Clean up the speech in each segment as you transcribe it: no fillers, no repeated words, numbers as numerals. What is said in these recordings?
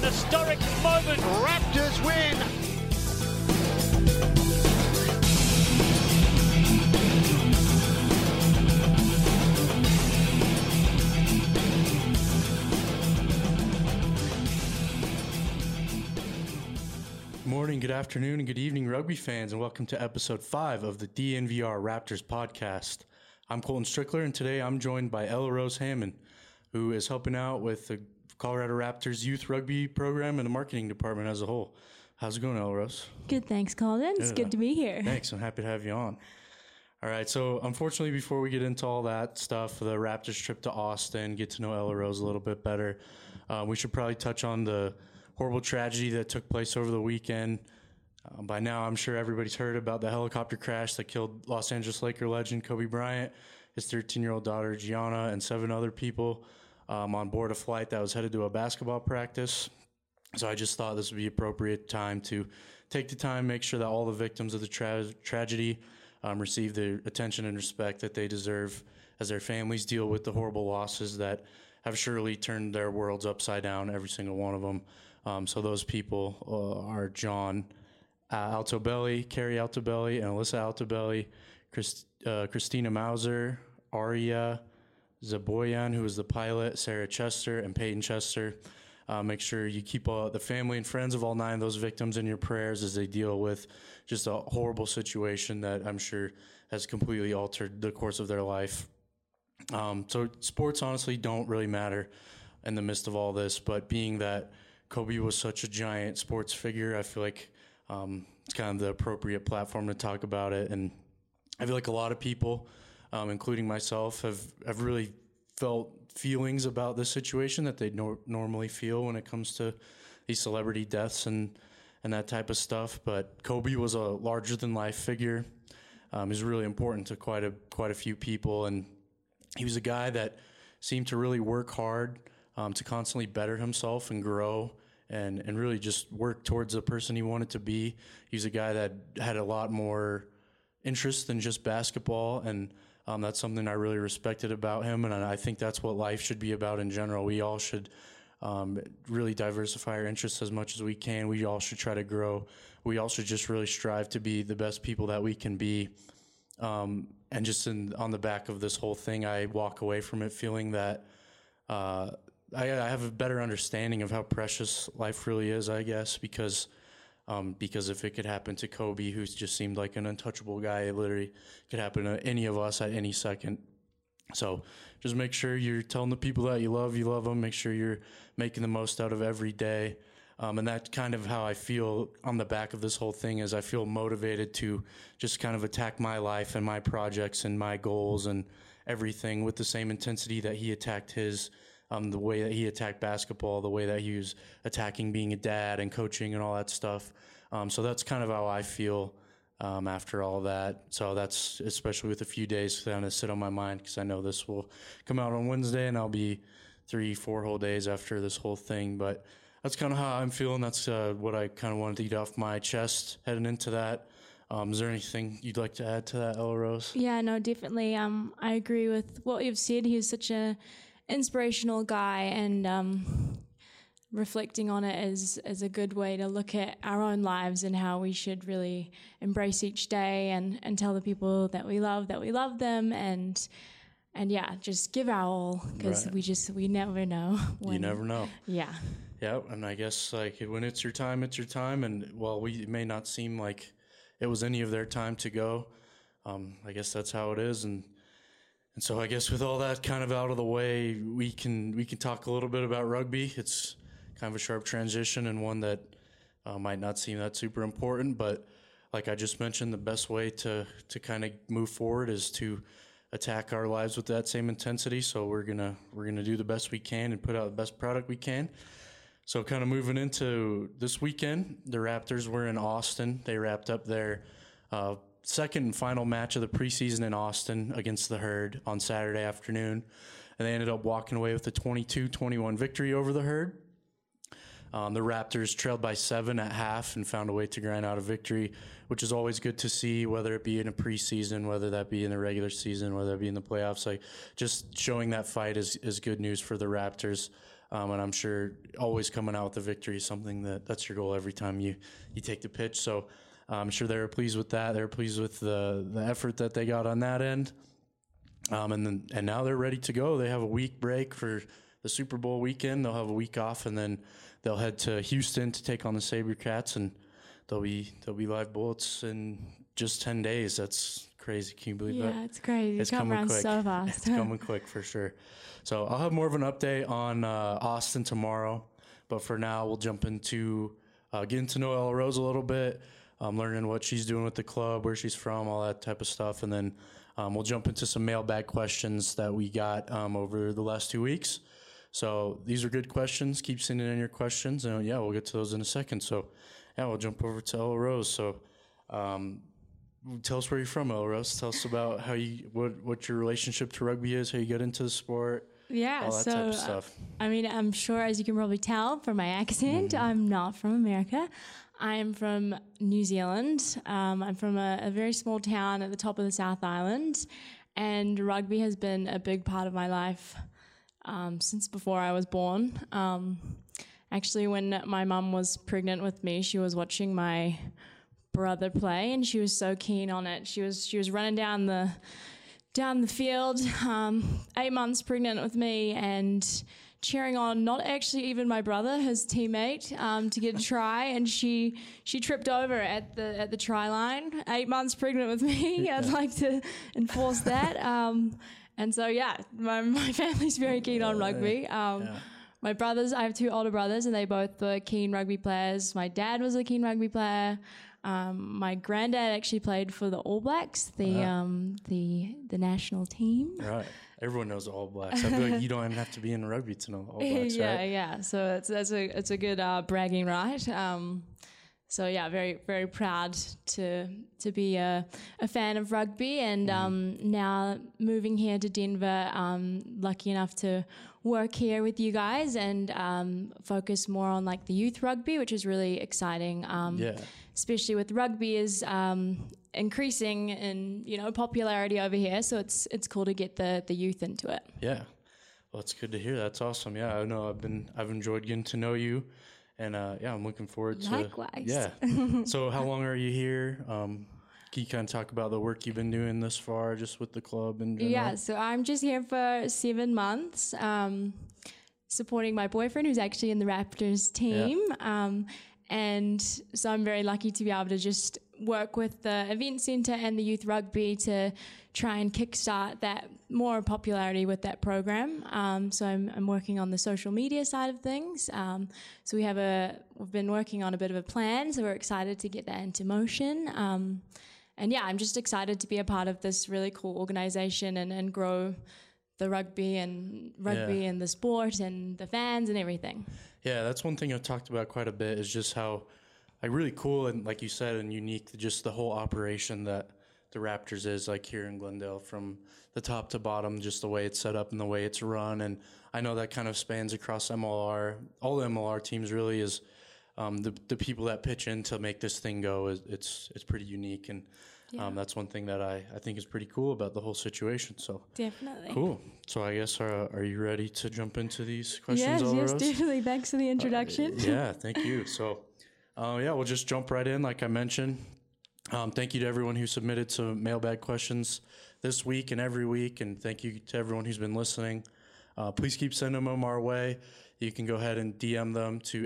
historic moment. Raptors win. Morning, good afternoon, and good evening, rugby fans, and welcome to episode 5 of the DNVR Raptors podcast. I'm Colton Strickler, and today I'm joined by Ella Rose Hammond, who is helping out with the Colorado Raptors youth rugby program and the marketing department as a whole. How's it going, Ella Rose? Good, thanks, Colin. It's good to be here. Thanks, I'm happy to have you on. All right, so unfortunately, before we get into all that stuff, the Raptors trip to Austin, get to know Ella Rose a little bit better, we should probably touch on the horrible tragedy that took place over the weekend. By now, I'm sure everybody's heard about the helicopter crash that killed Los Angeles Laker legend Kobe Bryant, his 13-year-old daughter Gianna, and 7 other people on board a flight that was headed to a basketball practice. So I just thought this would be appropriate time to take the time, make sure that all the victims of the tragedy receive the attention and respect that they deserve as their families deal with the horrible losses that have surely turned their worlds upside down, every single one of them. So those people are John Altobelli, Carrie Altobelli, and Alyssa Altobelli, Christina Mauser, Aria Zaboyan, who was the pilot, Sarah Chester, and Peyton Chester. Make sure you keep the family and friends of all 9 of those victims in your prayers as they deal with just a horrible situation that I'm sure has completely altered the course of their life. So sports honestly don't really matter in the midst of all this, but being that Kobe was such a giant sports figure, I feel like it's kind of the appropriate platform to talk about it. And I feel like a lot of people, including myself, have really felt feelings about this situation that they normally feel when it comes to these celebrity deaths and that type of stuff. But Kobe was a larger-than-life figure. He's really important to quite a few people, and he was a guy that seemed to really work hard to constantly better himself and grow and really just work towards the person he wanted to be. He's a guy that had a lot more interest than just basketball, and that's something I really respected about him, and I think that's what life should be about in general. We all should really diversify our interests as much as we can. We all should try to grow. We all should just really strive to be the best people that we can be. And just on the back of this whole thing, I walk away from it feeling that I have a better understanding of how precious life really is, I guess, because if it could happen to Kobe, who just seemed like an untouchable guy, it literally could happen to any of us at any second. So just make sure you're telling the people that you love them. Make sure you're making the most out of every day. And that's kind of how I feel on the back of this whole thing, is I feel motivated to just kind of attack my life and my projects and my goals and everything with the same intensity that he attacked his, the way that he attacked basketball, the way that he was attacking being a dad and coaching and all that stuff. So that's kind of how I feel after all that. So that's, especially with a few days kind of sit on my mind, because I know this will come out on Wednesday and I'll be 3-4 whole days after this whole thing. But that's kind of how I'm feeling. That's what I kind of wanted to get off my chest heading into that. Is there anything you'd like to add to that, Ella Rose? Yeah, no, definitely. I agree with what you've said. He's such a inspirational guy, and reflecting on it is a good way to look at our own lives and how we should really embrace each day and tell the people that we love them, and yeah, just give our all, because we never know. You never know. Yeah. Yeah, and I guess like when it's your time, and while it may not seem like it was any of their time to go, I guess that's how it is, and so I guess with all that kind of out of the way, we can talk a little bit about rugby. It's kind of a sharp transition, and one that might not seem that super important, but like I just mentioned, the best way to kind of move forward is to attack our lives with that same intensity. So we're gonna do the best we can and put out the best product we can. So kind of moving into this weekend, the Raptors were in Austin. They wrapped up their second and final match of the preseason in Austin against the Herd on Saturday afternoon, and they ended up walking away with a 22-21 victory over the Herd. The Raptors trailed by 7 at half and found a way to grind out a victory, which is always good to see, whether it be in a preseason, whether that be in the regular season, whether it be in the playoffs. Like, just showing that fight is good news for the Raptors. And I'm sure always coming out with a victory is something that's your goal every time you take the pitch. So I'm sure they were pleased with that. They were pleased with the effort that they got on that end. And now they're ready to go. They have a week break for the Super Bowl weekend. They'll have a week off, and then they'll head to Houston to take on the SaberCats, and they'll be live bullets in just 10 days. That's crazy. Can you believe that? Yeah, it's crazy. It's Come coming around quick. so fast. It's coming quick for sure. So I'll have more of an update on Austin tomorrow. But for now, we'll jump into getting to know Ella Rose a little bit, learning what she's doing with the club, where she's from, all that type of stuff. And then we'll jump into some mailbag questions that we got over the last 2 weeks. So these are good questions. Keep sending in your questions. And yeah, we'll get to those in a second. So yeah, we'll jump over to Ella Rose. So tell us where you're from, Ella Rose. Tell us about how what your relationship to rugby is, how you got into the sport. Yeah, all that so type of stuff. I mean, I'm sure, as you can probably tell from my accent, I'm not from America. I am from New Zealand. I'm from a very small town at the top of the South Island, and rugby has been a big part of my life since before I was born. Actually, when my mum was pregnant with me, she was watching my brother play, and she was so keen on it. She was running down the field, 8 months pregnant with me, and cheering on not actually even my brother, his teammate, to get a try, and she tripped over at the try line. 8 months pregnant with me. Yeah. I'd like to enforce that. And so yeah, my family's very keen on rugby. My brothers, I have 2 older brothers, and they both were keen rugby players. My dad was a keen rugby player. My granddad actually played for the All Blacks, the national team. Right. Everyone knows the All Blacks. I feel like you don't even have to be in rugby to know the All Blacks, right? Yeah. So it's a good bragging right. So yeah, very very proud to be a fan of rugby, and now moving here to Denver, lucky enough to work here with you guys and focus more on like the youth rugby, which is really exciting. Especially with rugby is increasing in popularity over here, so it's cool to get the youth into it. Yeah, well, it's good to hear. That's awesome. Yeah, I know I've enjoyed getting to know you, and yeah, I'm looking forward to. Likewise. Yeah. So how long are you here? Can you kind of talk about the work you've been doing thus far, just with the club in general? Yeah, so I'm just here for 7 months, supporting my boyfriend, who's actually in the Raptors team. Yeah. And so I'm very lucky to be able to just work with the event centre and the youth rugby to try and kickstart that more popularity with that program. So I'm working on the social media side of things. So we've been working on a bit of a plan, so we're excited to get that into motion. And yeah, I'm just excited to be a part of this really cool organisation and grow the rugby and the sport and the fans and everything. Yeah, that's one thing I've talked about quite a bit, is just how really cool and, like you said, and unique, just the whole operation that the Raptors is, like here in Glendale, from the top to bottom, just the way it's set up and the way it's run. And I know that kind of spans across MLR. All the MLR teams really is the people that pitch in to make this thing go. It's pretty unique, and that's one thing that I think is pretty cool about the whole situation. So definitely cool. So I guess are you ready to jump into these questions? Yes, definitely. Thanks for the introduction. Yeah, thank you. So we'll just jump right in, like I mentioned. Thank you to everyone who submitted some mailbag questions this week and every week, and thank you to everyone who's been listening. Please keep sending them our way. You can go ahead and DM them to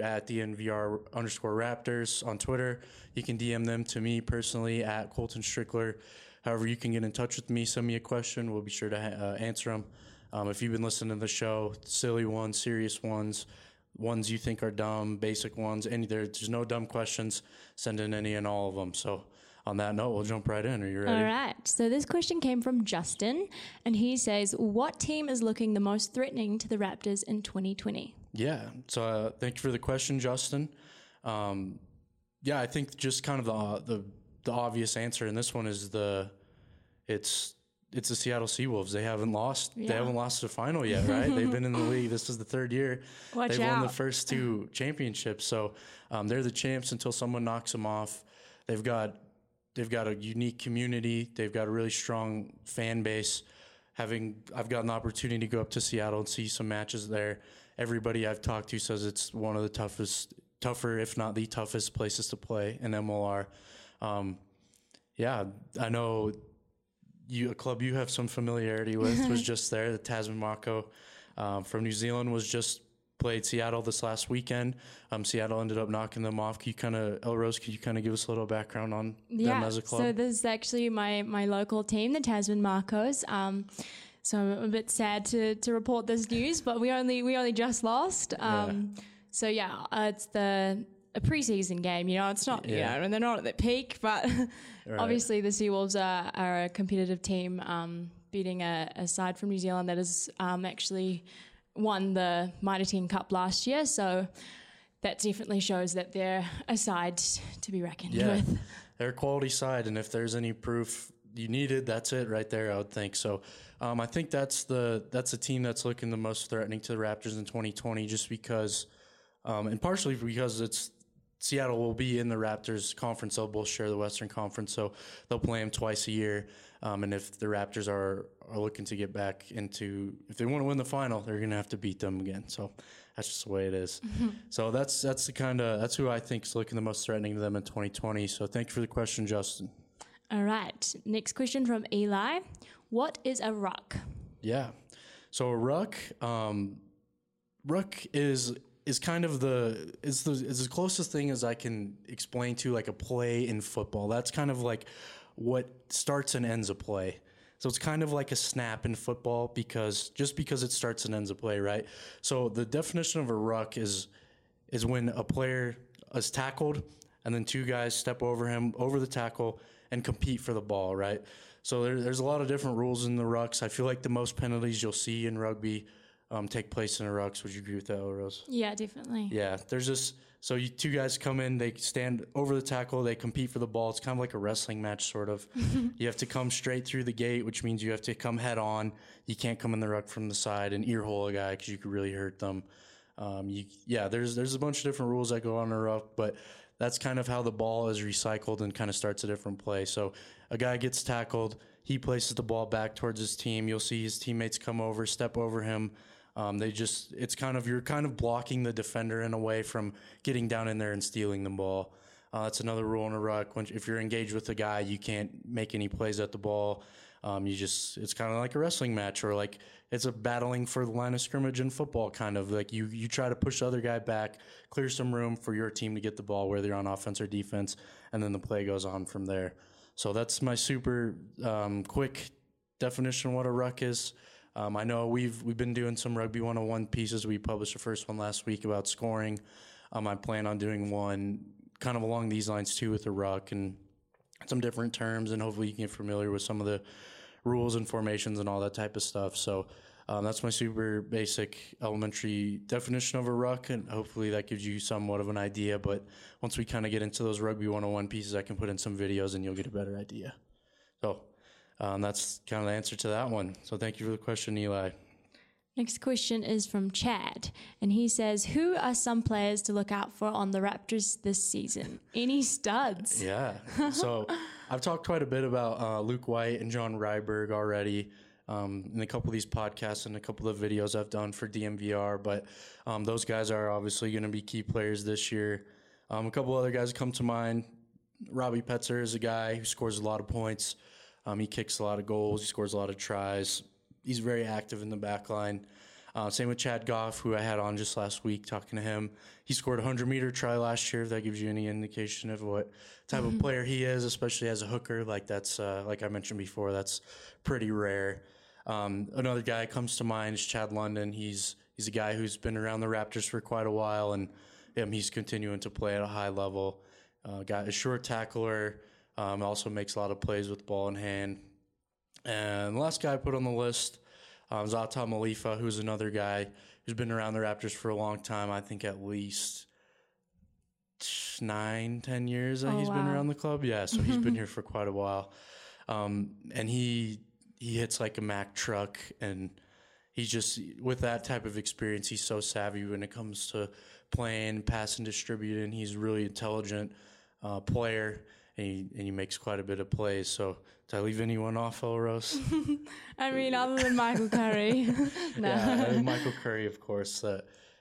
@DNVR_Raptors on Twitter. You can DM them to me personally @Colton Strickler. However, you can get in touch with me, send me a question. We'll be sure to answer them. If you've been listening to the show, silly ones, serious ones you think are dumb, basic ones, there's no dumb questions, send in any and all of them. So on that note, we'll jump right in. Are you ready? All right. So this question came from Justin, and he says, what team is looking the most threatening to the Raptors in 2020? Yeah. So thank you for the question, Justin. I think just kind of the obvious answer in this one is it's the Seattle Seawolves. They haven't lost. Yeah. They haven't lost a final yet, right? They've been in the league. This is the 3rd year. They've won the first 2 championships. So they're the champs until someone knocks them off. They've got a unique community. They've got a really strong fan base. I've gotten the opportunity to go up to Seattle and see some matches there, everybody I've talked to says it's one of the tougher, if not the toughest places to play in MLR. Yeah, I know a club you have some familiarity with was just there. The Tasman Mako from New Zealand was just played Seattle this last weekend. Seattle ended up knocking them off. Elrose, could you kind of give us a little background on them as a club? So this is actually my local team, the Tasman Marcos. So I'm a bit sad to report this news, but we only just lost. So yeah, it's a preseason game. It's not and they're not at their peak, but obviously the Seawolves are a competitive team, beating a side from New Zealand that has actually won the Mitre 10 Cup last year, so that definitely shows that they're a side to be reckoned with. They're a quality side, and if there's any proof you needed, that's it right there, I would think. So I think that's the team that's looking the most threatening to the Raptors in 2020, just because, and partially because Seattle will be in the Raptors conference. They'll both share the Western Conference, so they'll play them twice a year. And if the Raptors are looking to get back into, if they want to win the final, they're going to have to beat them again. So that's just the way it is. So that's who I think is looking the most threatening to them in 2020. So thank you for the question, Justin. All right. Next question from Eli. What is a ruck? Yeah. So a ruck is kind of is the closest thing as I can explain to like a play in football. That's kind of like what starts and ends a play. So it's kind of like a snap in football because it starts and ends a play, right? So the definition of a ruck is when a player is tackled and then two guys step over him, over the tackle, and compete for the ball, right? So there's a lot of different rules in the rucks. I feel like the most penalties you'll see in rugby take place in a rucks. Would you agree with that, Rose? Yeah, definitely. Yeah, there's just two guys come in, they stand over the tackle, they compete for the ball. It's kind of like a wrestling match, sort of. You have to come straight through the gate, which means you have to come head on. You can't come in the ruck from the side and ear hole a guy because you could really hurt them. There's a bunch of different rules that go on in a ruck, but that's kind of how the ball is recycled and kind of starts a different play. So a guy gets tackled, he places the ball back towards his team. You'll see his teammates come over, step over him. You're kind of blocking the defender in a way from getting down in there and stealing the ball. That's another rule in a ruck. If you're engaged with a guy, you can't make any plays at the ball. It's kind of like a wrestling match, or like it's a battling for the line of scrimmage in football, kind of like you try to push the other guy back, clear some room for your team to get the ball, whether you're on offense or defense, and then the play goes on from there. So that's my super quick definition of what a ruck is. I know we've been doing some Rugby 101 pieces. We published the first one last week about scoring. I plan on doing one kind of along these lines too with the ruck and some different terms, and hopefully you can get familiar with some of the rules and formations and all that type of stuff. So that's my super basic elementary definition of a ruck, and hopefully that gives you somewhat of an idea. But once we kind of get into those Rugby 101 pieces, I can put in some videos and you'll get a better idea. So that's kind of the answer to that one. So thank you for the question, Eli. Next question is from Chad, and he says, who are some players to look out for on the Raptors this season? Any studs? Yeah. So I've talked quite a bit about Luke White and John Ryberg already in a couple of these podcasts and a couple of videos I've done for DMVR, but those guys are obviously going to be key players this year. A couple other guys come to mind. Robbie Petzer is a guy who scores a lot of points. He kicks a lot of goals. He scores a lot of tries. He's very active in the back line. Same with Chad Goff, who I had on just last week talking to him. He scored a 100-meter try last year, if that gives you any indication of what type of player he is, especially as a hooker. Like I mentioned before, that's pretty rare. Another guy comes to mind is Chad London. He's a guy who's been around the Raptors for quite a while, and he's continuing to play at a high level. Got a short tackler. Also makes a lot of plays with the ball in hand. And the last guy I put on the list is Atam Malifa, who's another guy who's been around the Raptors for a long time. I think at least 9-10 years that he's been around the club. Yeah, so he's been here for quite a while. And he hits like a Mack truck, and he's just, with that type of experience, he's so savvy when it comes to playing, passing, distributing. He's a really intelligent player. And he makes quite a bit of plays. So, did I leave anyone off, Elrose? I mean, other than Michael Curry. No. Yeah, Michael Curry, of course.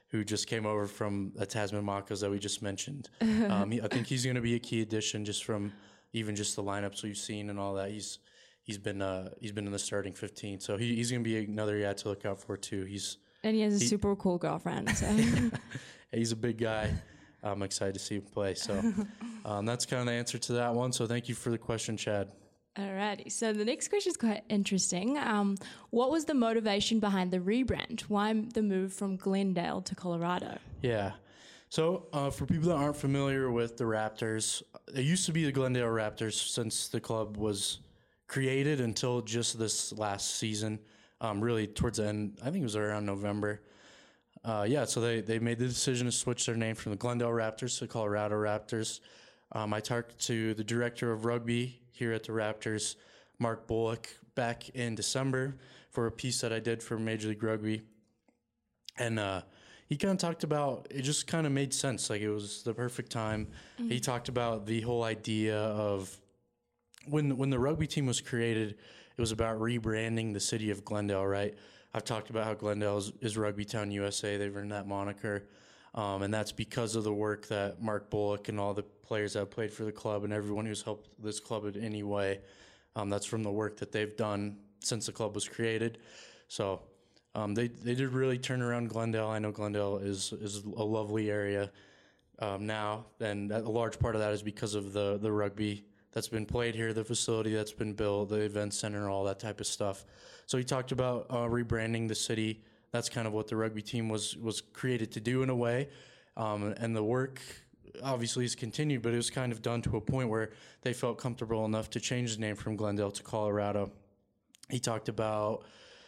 who just came over from the Tasman Makos that we just mentioned. I think he's going to be a key addition just from even just the lineups we've seen and all that. He's been in the starting 15, so he's going to be another guy to look out for too. And he has a super cool girlfriend. So. He's a big guy. I'm excited to see him play. So that's kind of the answer to that one. So thank you for the question, Chad. Alrighty. So the next question is quite interesting. What was the motivation behind the rebrand? Why the move from Glendale to Colorado? Yeah. So for people that aren't familiar with the Raptors, it used to be the Glendale Raptors since the club was created until just this last season. Really towards the end, I think it was around November. So they made the decision to switch their name from the Glendale Raptors to Colorado Raptors. I talked to the director of rugby here at the Raptors, Mark Bullock, back in December for a piece that I did for Major League Rugby. And he kind of talked about, it just kind of made sense. Like, it was the perfect time. Mm-hmm. He talked about the whole idea of when the rugby team was created, it was about rebranding the city of Glendale, right? I've talked about how Glendale is Rugby Town USA. They've earned that moniker. And that's because of the work that Mark Bullock and all the players that have played for the club and everyone who's helped this club in any way. That's from the work that they've done since the club was created. So they did really turn around Glendale. I know Glendale is a lovely area now, and a large part of that is because of the rugby that's been played here, the facility that's been built, the event center, all that type of stuff. So he talked about rebranding the city. That's kind of what the rugby team was created to do in a way. And the work obviously has continued, but it was kind of done to a point where they felt comfortable enough to change the name from Glendale to Colorado. He talked about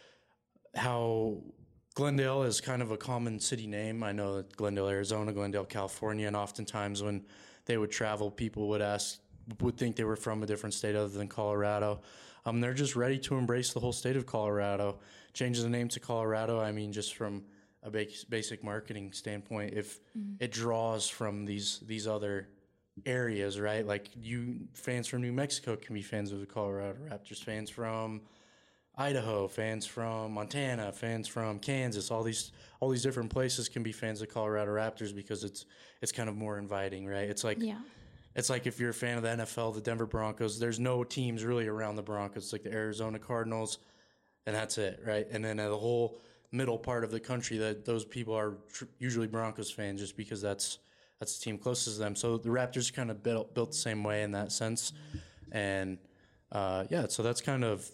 how Glendale is kind of a common city name. I know that Glendale, Arizona, Glendale, California, and oftentimes when they would travel, people would think they were from a different state other than Colorado. They're just ready to embrace the whole state of Colorado. Change the name to Colorado, I mean, just from a basic marketing standpoint, if it draws from these other areas, right? Like, fans from New Mexico can be fans of the Colorado Raptors, fans from Idaho, fans from Montana, fans from Kansas, all these different places can be fans of Colorado Raptors because it's kind of more inviting, right? It's like It's like if you're a fan of the NFL, the Denver Broncos, there's no teams really around the Broncos. It's like the Arizona Cardinals, and that's it, right? And then the whole middle part of the country, that those people are usually Broncos fans just because that's the team closest to them. So the Raptors kind of built the same way in that sense. And so that's kind of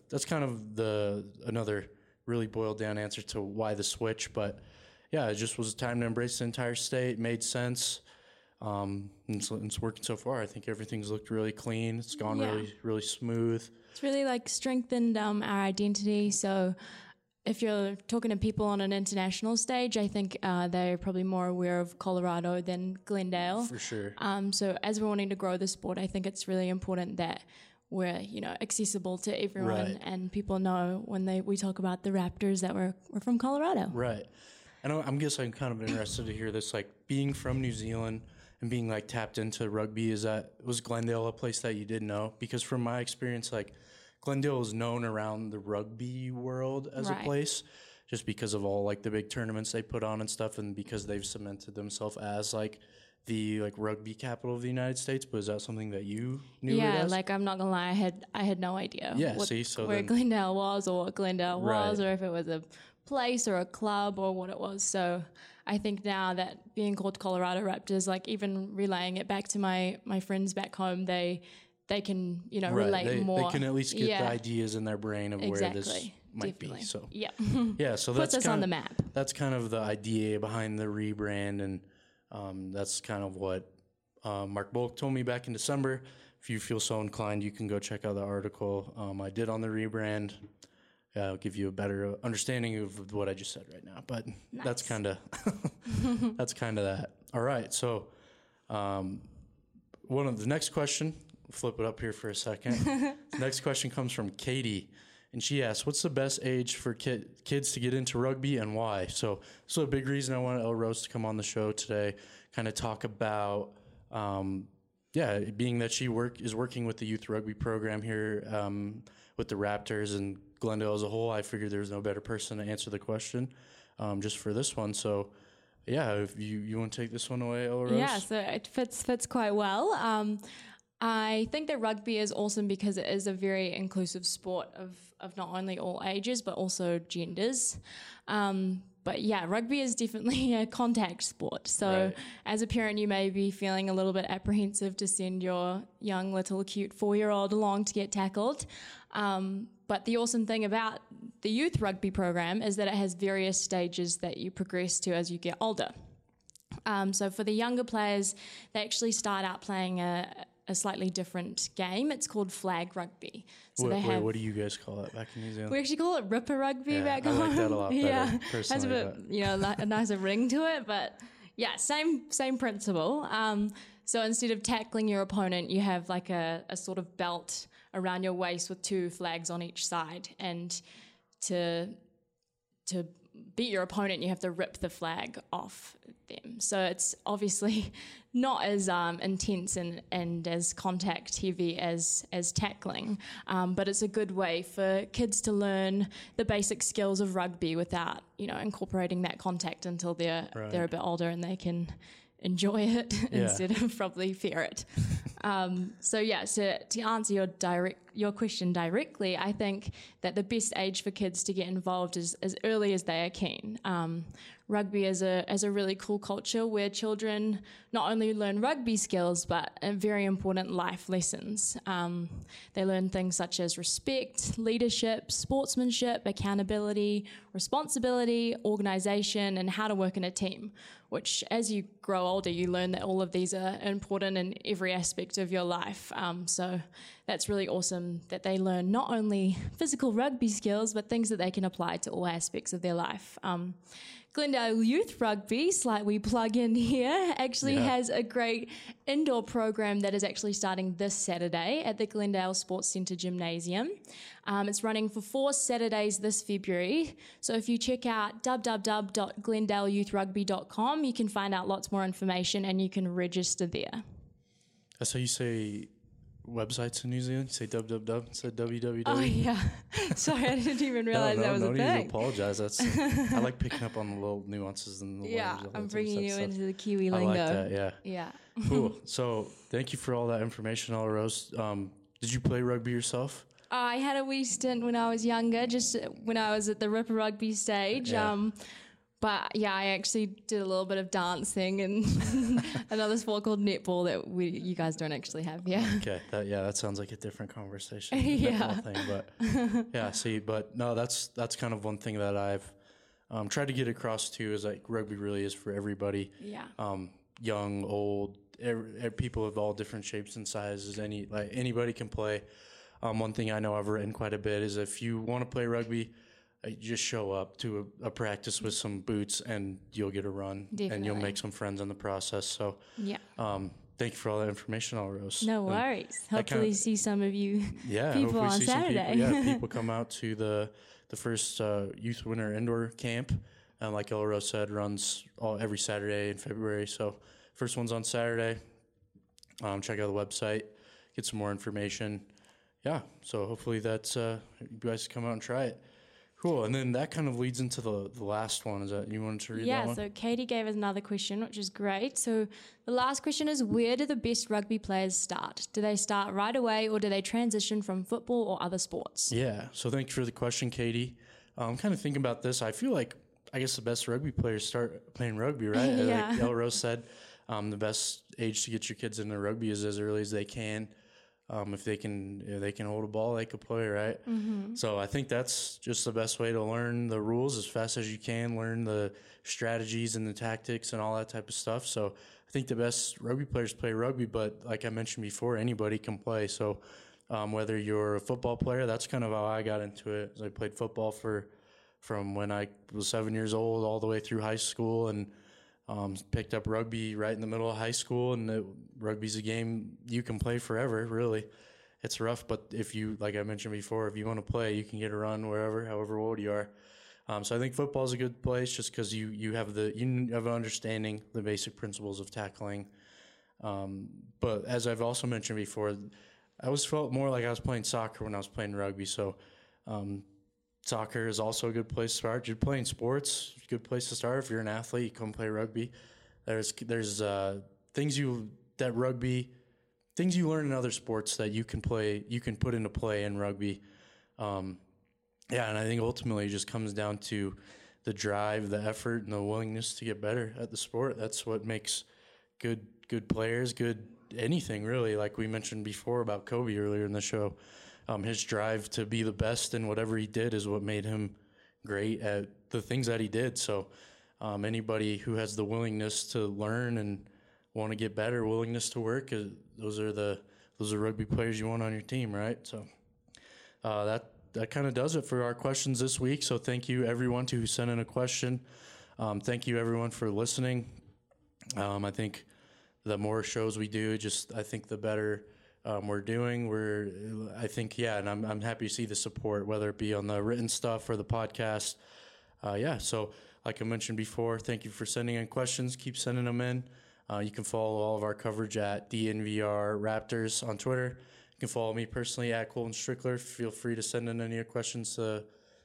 another really boiled down answer to why the switch. But yeah, it just was time to embrace the entire state. It made sense. And it's working so far. I think everything's looked really clean. It's gone really, really smooth. It's really strengthened our identity. So if you're talking to people on an international stage, I think they're probably more aware of Colorado than Glendale. For sure. So as we're wanting to grow the sport, I think it's really important that we're accessible to everyone, right, and people know when we talk about the Raptors that we're from Colorado. Right. And I guess I'm kind of interested to hear this, like, being from New Zealand and being tapped into rugby. Was Glendale a place that you didn't know? Because from my experience, Glendale is known around the rugby world as a place, just because of all the big tournaments they put on and stuff, and because they've cemented themselves as the rugby capital of the United States. But is that something that you knew? Yeah, I'm not gonna lie, I had no idea. Yeah, where Glendale was, or what Glendale was, or if it was a place or a club or what it was. So I think now that being called Colorado Raptors, even relaying it back to my friends back home, they can relate more. They can at least get the ideas in their brain of where this might be. So so puts us on the map. That's kind of the idea behind the rebrand, and that's kind of what Mark Bullock told me back in December. If you feel so inclined, you can go check out the article I did on the rebrand. I'll give you a better understanding of what I just said right now. But nice. That's kind of that. All right. So the next question, flip it up here for a second. The next question comes from Katie, and she asks, what's the best age for kids to get into rugby and why? So a big reason I wanted El Rose to come on the show today, kind of talk about, being that she is working with the youth rugby program here with the Raptors and Glendale as a whole. I figured there was no better person to answer the question just for this one. So, yeah, if you want to take this one away, Ella Rose? Yeah, so it fits quite well. I think that rugby is awesome because it is a very inclusive sport of not only all ages but also genders. But yeah, rugby is definitely a contact sport. So Right. as a parent, you may be feeling a little bit apprehensive to send your young little cute 4-year-old along to get tackled. But the awesome thing about the youth rugby program is that it has various stages that you progress to as you get older. So for the younger players, they actually start out playing a slightly different game. It's called flag rugby. So Wait, what do you guys call it back in New Zealand? We actually call it ripper rugby Yeah, back I home. like that a lot better, yeah, personally, has a bit, a nicer ring to it, but yeah, same principle. So instead of tackling your opponent, you have like a sort of belt around your waist with 2 flags on each side, and to beat your opponent, you have to rip the flag off them. So it's obviously not as intense and as contact heavy as tackling, but it's a good way for kids to learn the basic skills of rugby without, incorporating that contact until they're a bit older and they can enjoy it instead of probably fear it. So to answer your question directly, I think that the best age for kids to get involved is as early as they are keen. Rugby is a really cool culture where children not only learn rugby skills but very important life lessons. They learn things such as respect, leadership, sportsmanship, accountability, responsibility, organisation, and how to work in a team, which as you grow older, you learn that all of these are important in every aspect of your life. So that's really awesome that they learn not only physical rugby skills, but things that they can apply to all aspects of their life. Glendale Youth Rugby, slight wee plug in here, actually has a great indoor program that is actually starting this Saturday at the Glendale Sports Centre Gymnasium. It's running for 4 Saturdays this February. So if you check out www.glendaleyouithrugby.com, you can find out lots more information and you can register there. That's how you say websites in New Zealand? You say www instead of www? Oh, yeah. Sorry, I didn't even realize that was a No thing. need to apologize. I like picking up on the little nuances and the words. Yeah, I'm bringing you into the Kiwi I lingo. like that, yeah. Yeah. Cool. So thank you for all that information, Ella Rose. Did you play rugby yourself? I had a wee stint when I was younger, just when I was at the Ripper Rugby stage. Yeah. But yeah, I actually did a little bit of dancing and another sport called netball that you guys don't actually have. Yeah. Okay. That sounds like a different conversation. Yeah. Thing, but yeah. See, but no, that's kind of one thing that I've tried to get across too is like rugby really is for everybody. Yeah. Young, old, people of all different shapes and sizes. Anybody can play. One thing I know I've written quite a bit is if you want to play rugby, you just show up to a practice with some boots and you'll get a run. Definitely. And you'll make some friends in the process. So yeah. Thank you for all that information, Ella Rose. No worries. Hopefully see some of you people on Saturday. People come out to the first Youth Winter Indoor Camp. Like Ella Rose said, runs every Saturday in February. So first one's on Saturday. Check out the website, get some more information. Yeah, so hopefully that's you guys come out and try it. Cool, and then that kind of leads into the last one. Is that you wanted to read that one? Yeah, so Katie gave us another question, which is great. So the last question is, where do the best rugby players start? Do they start right away or do they transition from football or other sports? Yeah, so thank you for the question, Katie. I'm kind of thinking about this. I feel like, I guess the best rugby players start playing rugby, right? Yeah. Like Ella Rose said, the best age to get your kids into rugby is as early as they can. If they can hold a ball, they could play, right? Mm-hmm. So I think that's just the best way to learn the rules as fast as you can, learn the strategies and the tactics and all that type of stuff. So I think the best rugby players play rugby, but like I mentioned before, anybody can play. So whether you're a football player, that's kind of how I got into it. I played football from when I was 7 years old all the way through high school, and picked up rugby right in the middle of high school, and rugby's a game you can play forever, really. It's rough, but if you, like I mentioned before, if you want to play, you can get a run wherever, however old you are. So I think football is a good place just because you have an understanding, the basic principles of tackling. But as I've also mentioned before, I always felt more like I was playing soccer when I was playing rugby. So soccer is also a good place to start. You're playing sports, good place to start. If you're an athlete, you come play rugby. There's things you learn in other sports that you can put into play in rugby. And I think ultimately it just comes down to the drive, the effort, and the willingness to get better at the sport. That's what makes good players, good anything really. Like we mentioned before about Kobe earlier in the show, his drive to be the best in whatever he did is what made him great at the things that he did. So anybody who has the willingness to learn and want to get better, willingness to work, those are rugby players you want on your team, right? So that kind of does it for our questions this week. So thank you everyone who sent in a question. Thank you everyone for listening. I think the more shows we do, I think the better we're doing. And I'm happy to see the support, whether it be on the written stuff or the podcast. So like I mentioned before, thank you for sending in questions. Keep sending them in. You can follow all of our coverage at DNVR Raptors on Twitter. You can follow me personally at Colton Strickler. Feel free to send in any of your questions to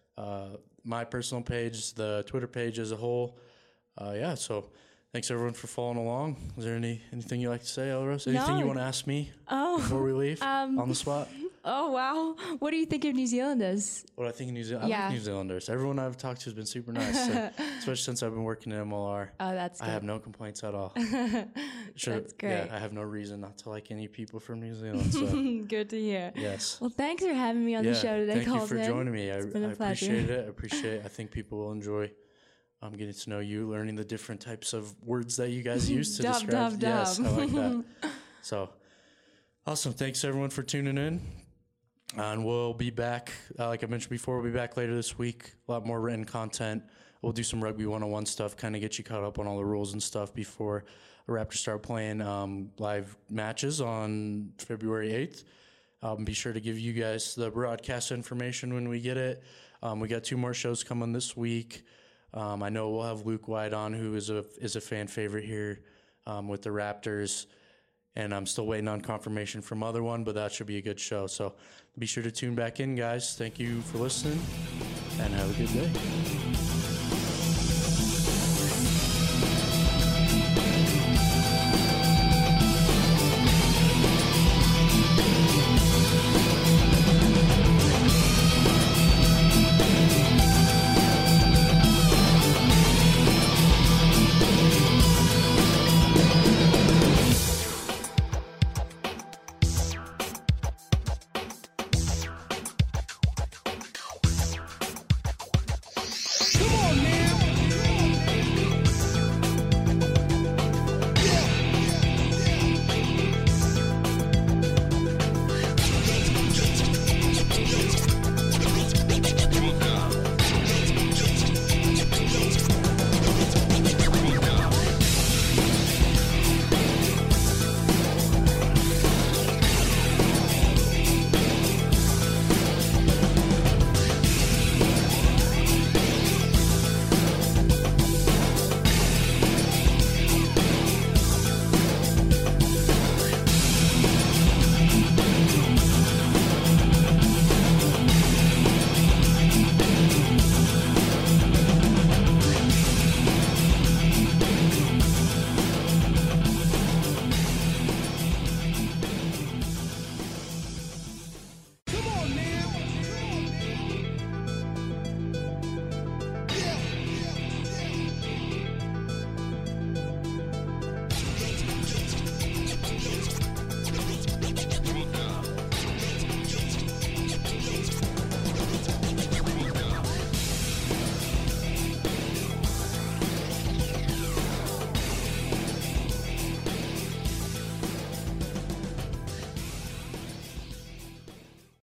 my personal page, the Twitter page as a whole. So thanks everyone for following along. Is there anything you'd like to say, Elrose? Anything you want to ask me before we leave on the spot? Oh, wow. What do you think of New Zealanders? What I think of New Zealand? I like New Zealanders. Everyone I've talked to has been super nice, especially since I've been working in MLR. Oh, that's good. I have no complaints at all. That's great. Yeah, I have no reason not to like any people from New Zealand. So. Good to hear. Yes. Well, thanks for having me on the show today, Colton. Thank you for Colton. joining me. I It's been a pleasure. appreciate it. I think people will enjoy getting to know you, learning the different types of words that you guys use to describe. Yes, I like that. So, awesome. Thanks, everyone, for tuning in. And we'll be back, like I mentioned before, we'll be back later this week. A lot more written content. We'll do some Rugby 101 stuff, kind of get you caught up on all the rules and stuff before the Raptors start playing live matches on February 8th. Be sure to give you guys the broadcast information when we get it. We got 2 more shows coming this week. I know we'll have Luke White on, who is a fan favorite here with the Raptors. And I'm still waiting on confirmation from other one, but that should be a good show. So be sure to tune back in, guys. Thank you for listening, and have a good day.